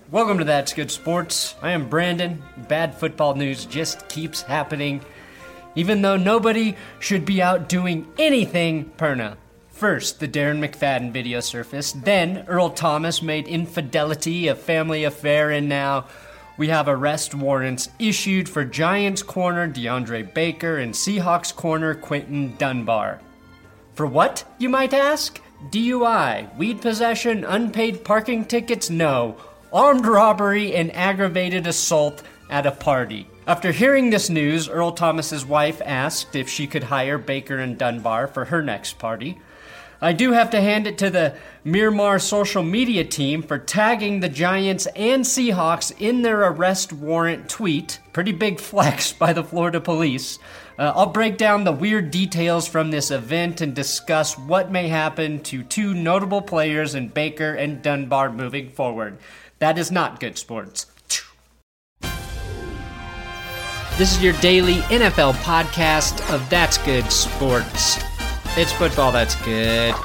Welcome to That's Good Sports. I am Brandon. Bad football news just keeps happening, even though nobody should be out doing anything perna. First, the Darren McFadden video surfaced. Then, Earl Thomas made infidelity a family affair, and now we have arrest warrants issued for Giants corner DeAndre Baker and Seahawks corner Quinton Dunbar. For what, you might ask? DUI, weed possession, unpaid parking tickets? No. Armed robbery and aggravated assault at a party. After hearing this news, Earl Thomas's wife asked if she could hire Baker and Dunbar for her next party. I do have to hand it to the Miramar social media team for tagging the Giants and Seahawks in their arrest warrant tweet. Pretty big flex by the Florida police. I'll break down the weird details from this event and discuss what may happen to two notable players in Baker and Dunbar moving forward. That is not good sports. This is your daily NFL podcast of That's Good Sports. It's football that's good.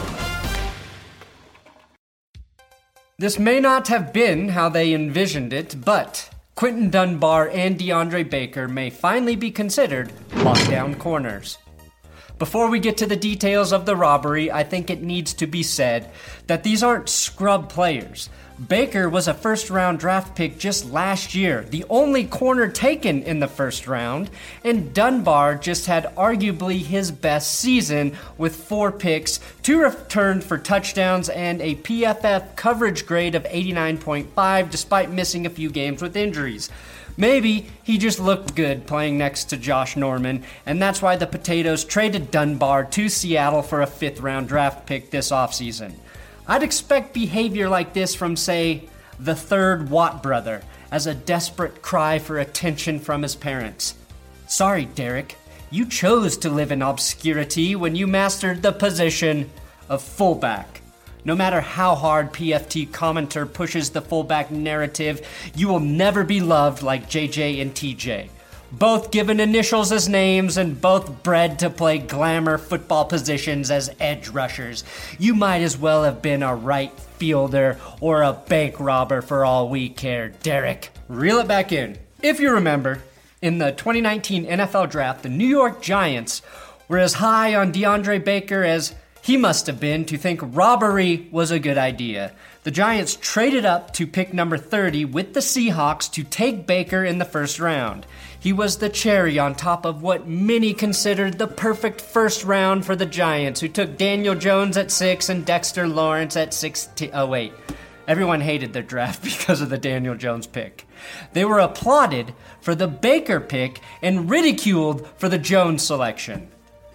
This may not have been how they envisioned it, but Quinton Dunbar and DeAndre Baker may finally be considered lockdown corners. Before we get to the details of the robbery, I think it needs to be said that these aren't scrub players. Baker was a first-round draft pick just last year, the only corner taken in the first round, and Dunbar just had arguably his best season with 4 picks, 2 returned for touchdowns, and a PFF coverage grade of 89.5 despite missing a few games with injuries. Maybe he just looked good playing next to Josh Norman, and that's why the Potatoes traded Dunbar to Seattle for a 5th-round draft pick this offseason. I'd expect behavior like this from, say, the third Watt brother, as a desperate cry for attention from his parents. Sorry, Derek, you chose to live in obscurity when you mastered the position of fullback. No matter how hard PFT commenter pushes the fullback narrative, you will never be loved like JJ and TJ. Both given initials as names and both bred to play glamour football positions as edge rushers. You might as well have been a right fielder or a bank robber for all we care, Derek. Reel it back in. If you remember, in the 2019 NFL Draft, the New York Giants were as high on DeAndre Baker as he must have been to think robbery was a good idea. The Giants traded up to pick number 30 with the Seahawks to take Baker in the first round. He was the cherry on top of what many considered the perfect first round for the Giants, who took Daniel Jones at 6 and Dexter Lawrence at 16. Oh, wait. Everyone hated their draft because of the Daniel Jones pick. They were applauded for the Baker pick and ridiculed for the Jones selection.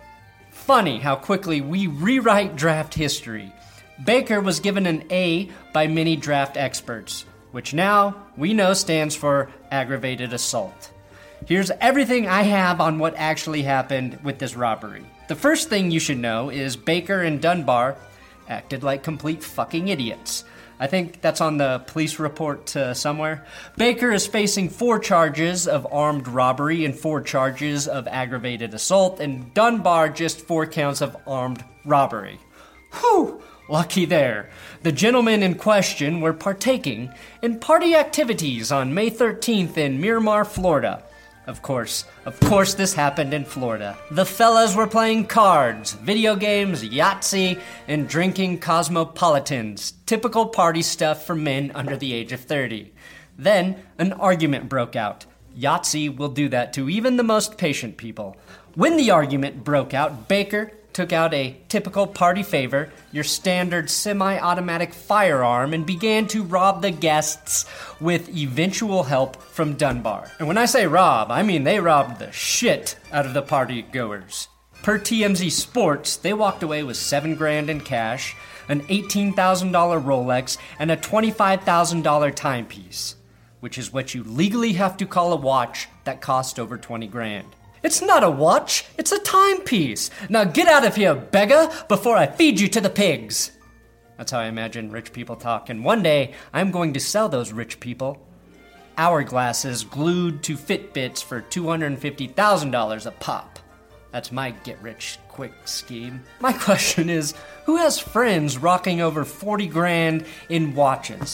Funny how quickly we rewrite draft history. Baker was given an A by many draft experts, which now we know stands for aggravated assault. Here's everything I have on what actually happened with this robbery. The first thing you should know is Baker and Dunbar acted like complete fucking idiots. I think that's on the police report somewhere. Baker is facing 4 charges of armed robbery and 4 charges of aggravated assault, and Dunbar just 4 counts of armed robbery. Whew! Lucky there. The gentlemen in question were partaking in party activities on May 13th in Miramar, Florida. Of course this happened in Florida. The fellas were playing cards, video games, Yahtzee, and drinking Cosmopolitans. Typical party stuff for men under the age of 30. Then, an argument broke out. Yahtzee will do that to even the most patient people. When the argument broke out, Baker took out a typical party favor, your standard semi-automatic firearm, and began to rob the guests with eventual help from Dunbar. And when I say rob, I mean they robbed the shit out of the party goers. Per TMZ Sports, they walked away with $7,000 in cash, an $18,000 Rolex, and a $25,000 timepiece, which is what you legally have to call a watch that cost over $20,000. It's not a watch, it's a timepiece. Now get out of here, beggar, before I feed you to the pigs. That's how I imagine rich people talk, and one day I'm going to sell those rich people hourglasses glued to Fitbits for $250,000 a pop. That's my get-rich-quick scheme. My question is, who has friends rocking over $40,000 in watches?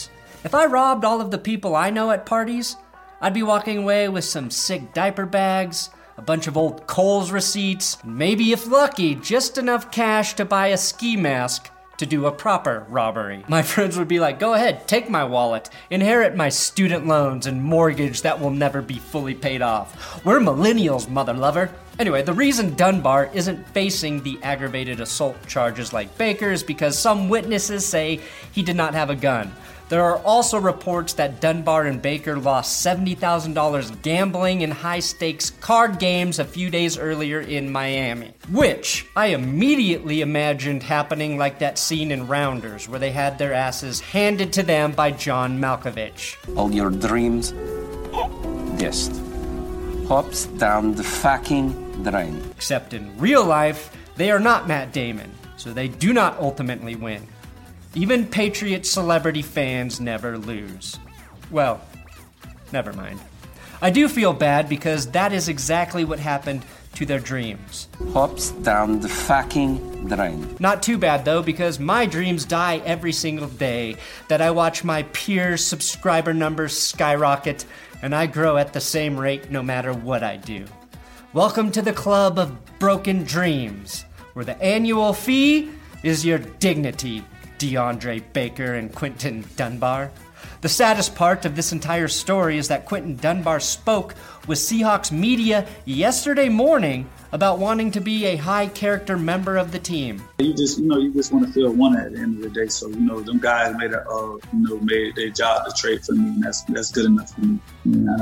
If I robbed all of the people I know at parties, I'd be walking away with some sick diaper bags, a bunch of old Kohl's receipts, and maybe if lucky, just enough cash to buy a ski mask to do a proper robbery. My friends would be like, go ahead, take my wallet, inherit my student loans and mortgage that will never be fully paid off. We're millennials, mother lover. Anyway, the reason Dunbar isn't facing the aggravated assault charges like Baker is because some witnesses say he did not have a gun. There are also reports that Dunbar and Baker lost $70,000 gambling in high-stakes card games a few days earlier in Miami, which I immediately imagined happening like that scene in Rounders where they had their asses handed to them by John Malkovich. All your dreams, just hops down the fucking drain. Except in real life, they are not Matt Damon, so they do not ultimately win. Even Patriot celebrity fans never lose. Well, never mind. I do feel bad because that is exactly what happened to their dreams. Hops down the fucking drain. Not too bad though, because my dreams die every single day that I watch my peers' subscriber numbers skyrocket and I grow at the same rate no matter what I do. Welcome to the club of broken dreams, where the annual fee is your dignity, DeAndre Baker and Quinton Dunbar. The saddest part of this entire story is that Quinton Dunbar spoke with Seahawks media yesterday morning about wanting to be a high-character member of the team. You just want to feel wanted at the end of the day. So, them guys made their job to trade for me, and that's good enough for me.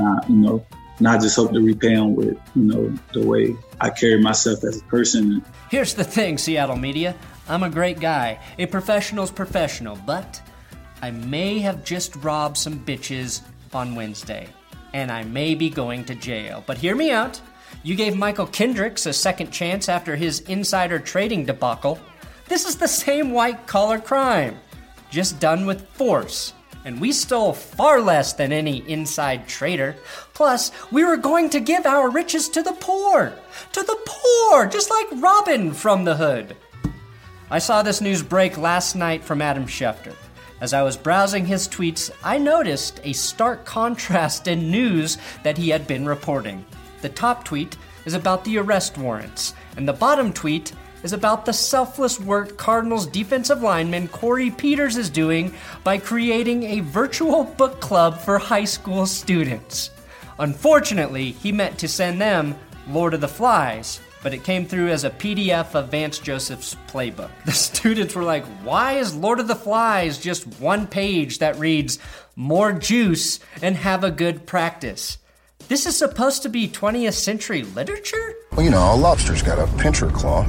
And I just hope to repay them with, the way I carry myself as a person. Here's the thing, Seattle media. I'm a great guy. A professional's professional, but I may have just robbed some bitches on Wednesday, and I may be going to jail. But hear me out. You gave Michael Kendricks a second chance after his insider trading debacle. This is the same white-collar crime, just done with force. And we stole far less than any inside trader. Plus, we were going to give our riches to the poor. To the poor, just like Robin from the Hood. I saw this news break last night from Adam Schefter. As I was browsing his tweets, I noticed a stark contrast in news that he had been reporting. The top tweet is about the arrest warrants, and the bottom tweet is about the selfless work Cardinals defensive lineman Corey Peters is doing by creating a virtual book club for high school students. Unfortunately, he meant to send them Lord of the Flies, but it came through as a PDF of Vance Joseph's playbook. The students were like, why is Lord of the Flies just one page that reads, more juice and have a good practice? This is supposed to be 20th century literature? Well, a lobster's got a pincher claw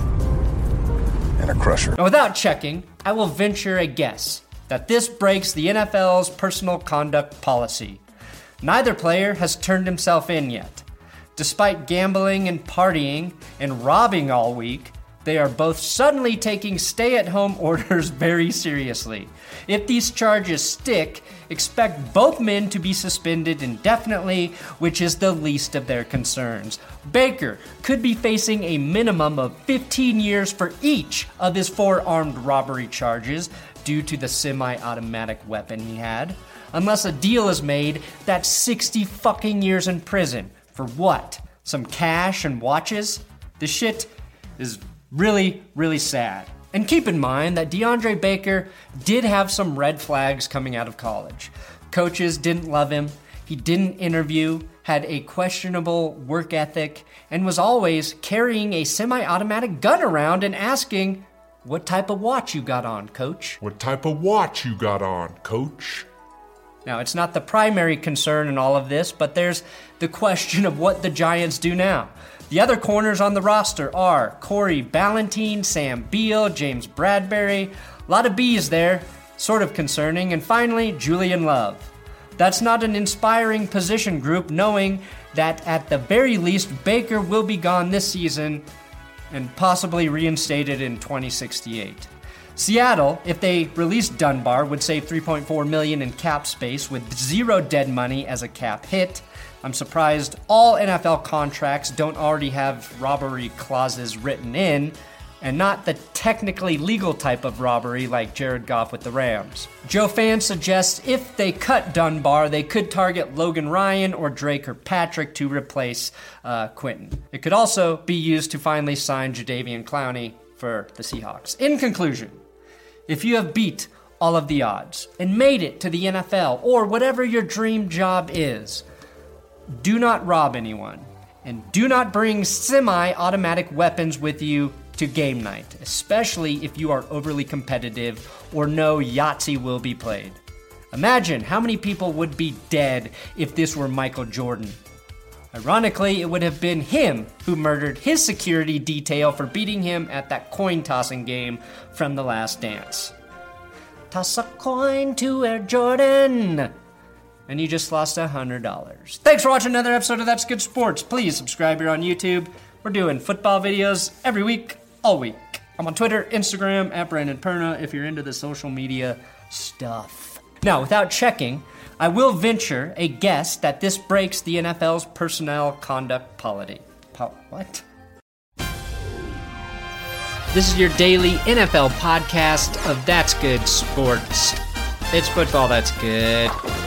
and a crusher. Now, without checking, I will venture a guess that this breaks the NFL's personal conduct policy. Neither player has turned himself in yet. Despite gambling and partying and robbing all week, they are both suddenly taking stay-at-home orders very seriously. If these charges stick, expect both men to be suspended indefinitely, which is the least of their concerns. Baker could be facing a minimum of 15 years for each of his 4 armed robbery charges due to the semi-automatic weapon he had. Unless a deal is made, that's 60 fucking years in prison. For what? Some cash and watches? This shit is really, really sad. And keep in mind that DeAndre Baker did have some red flags coming out of college. Coaches didn't love him, he didn't interview, had a questionable work ethic, and was always carrying a semi-automatic gun around and asking, what type of watch you got on, coach? What type of watch you got on, coach? Now, it's not the primary concern in all of this, but there's the question of what the Giants do now. The other corners on the roster are Corey Ballentine, Sam Beal, James Bradbury. A lot of B's there, sort of concerning. And finally, Julian Love. That's not an inspiring position group, knowing that at the very least, Baker will be gone this season and possibly reinstated in 2068. Seattle, if they released Dunbar, would save $3.4 million in cap space with zero dead money as a cap hit. I'm surprised all NFL contracts don't already have robbery clauses written in. and not the technically legal type of robbery like Jared Goff with the Rams. Joe Fan suggests if they cut Dunbar, they could target Logan Ryan or Dre Kirkpatrick to replace Quentin. It could also be used to finally sign Jadeveon Clowney for the Seahawks. In conclusion, if you have beat all of the odds and made it to the NFL or whatever your dream job is, do not rob anyone and do not bring semi-automatic weapons with you to game night, especially if you are overly competitive or know Yahtzee will be played. Imagine how many people would be dead if this were Michael Jordan. Ironically, it would have been him who murdered his security detail for beating him at that coin-tossing game from The Last Dance. Toss a coin to Air Jordan! And you just lost $100. Thanks for watching another episode of That's Good Sports. Please subscribe here on YouTube. We're doing football videos every week, all week. I'm on Twitter, Instagram, at Brandon Perna if you're into the social media stuff. Now, without checking, I will venture a guess that this breaks the NFL's personnel conduct policy. What? This is your daily NFL podcast of That's Good Sports. It's football that's good.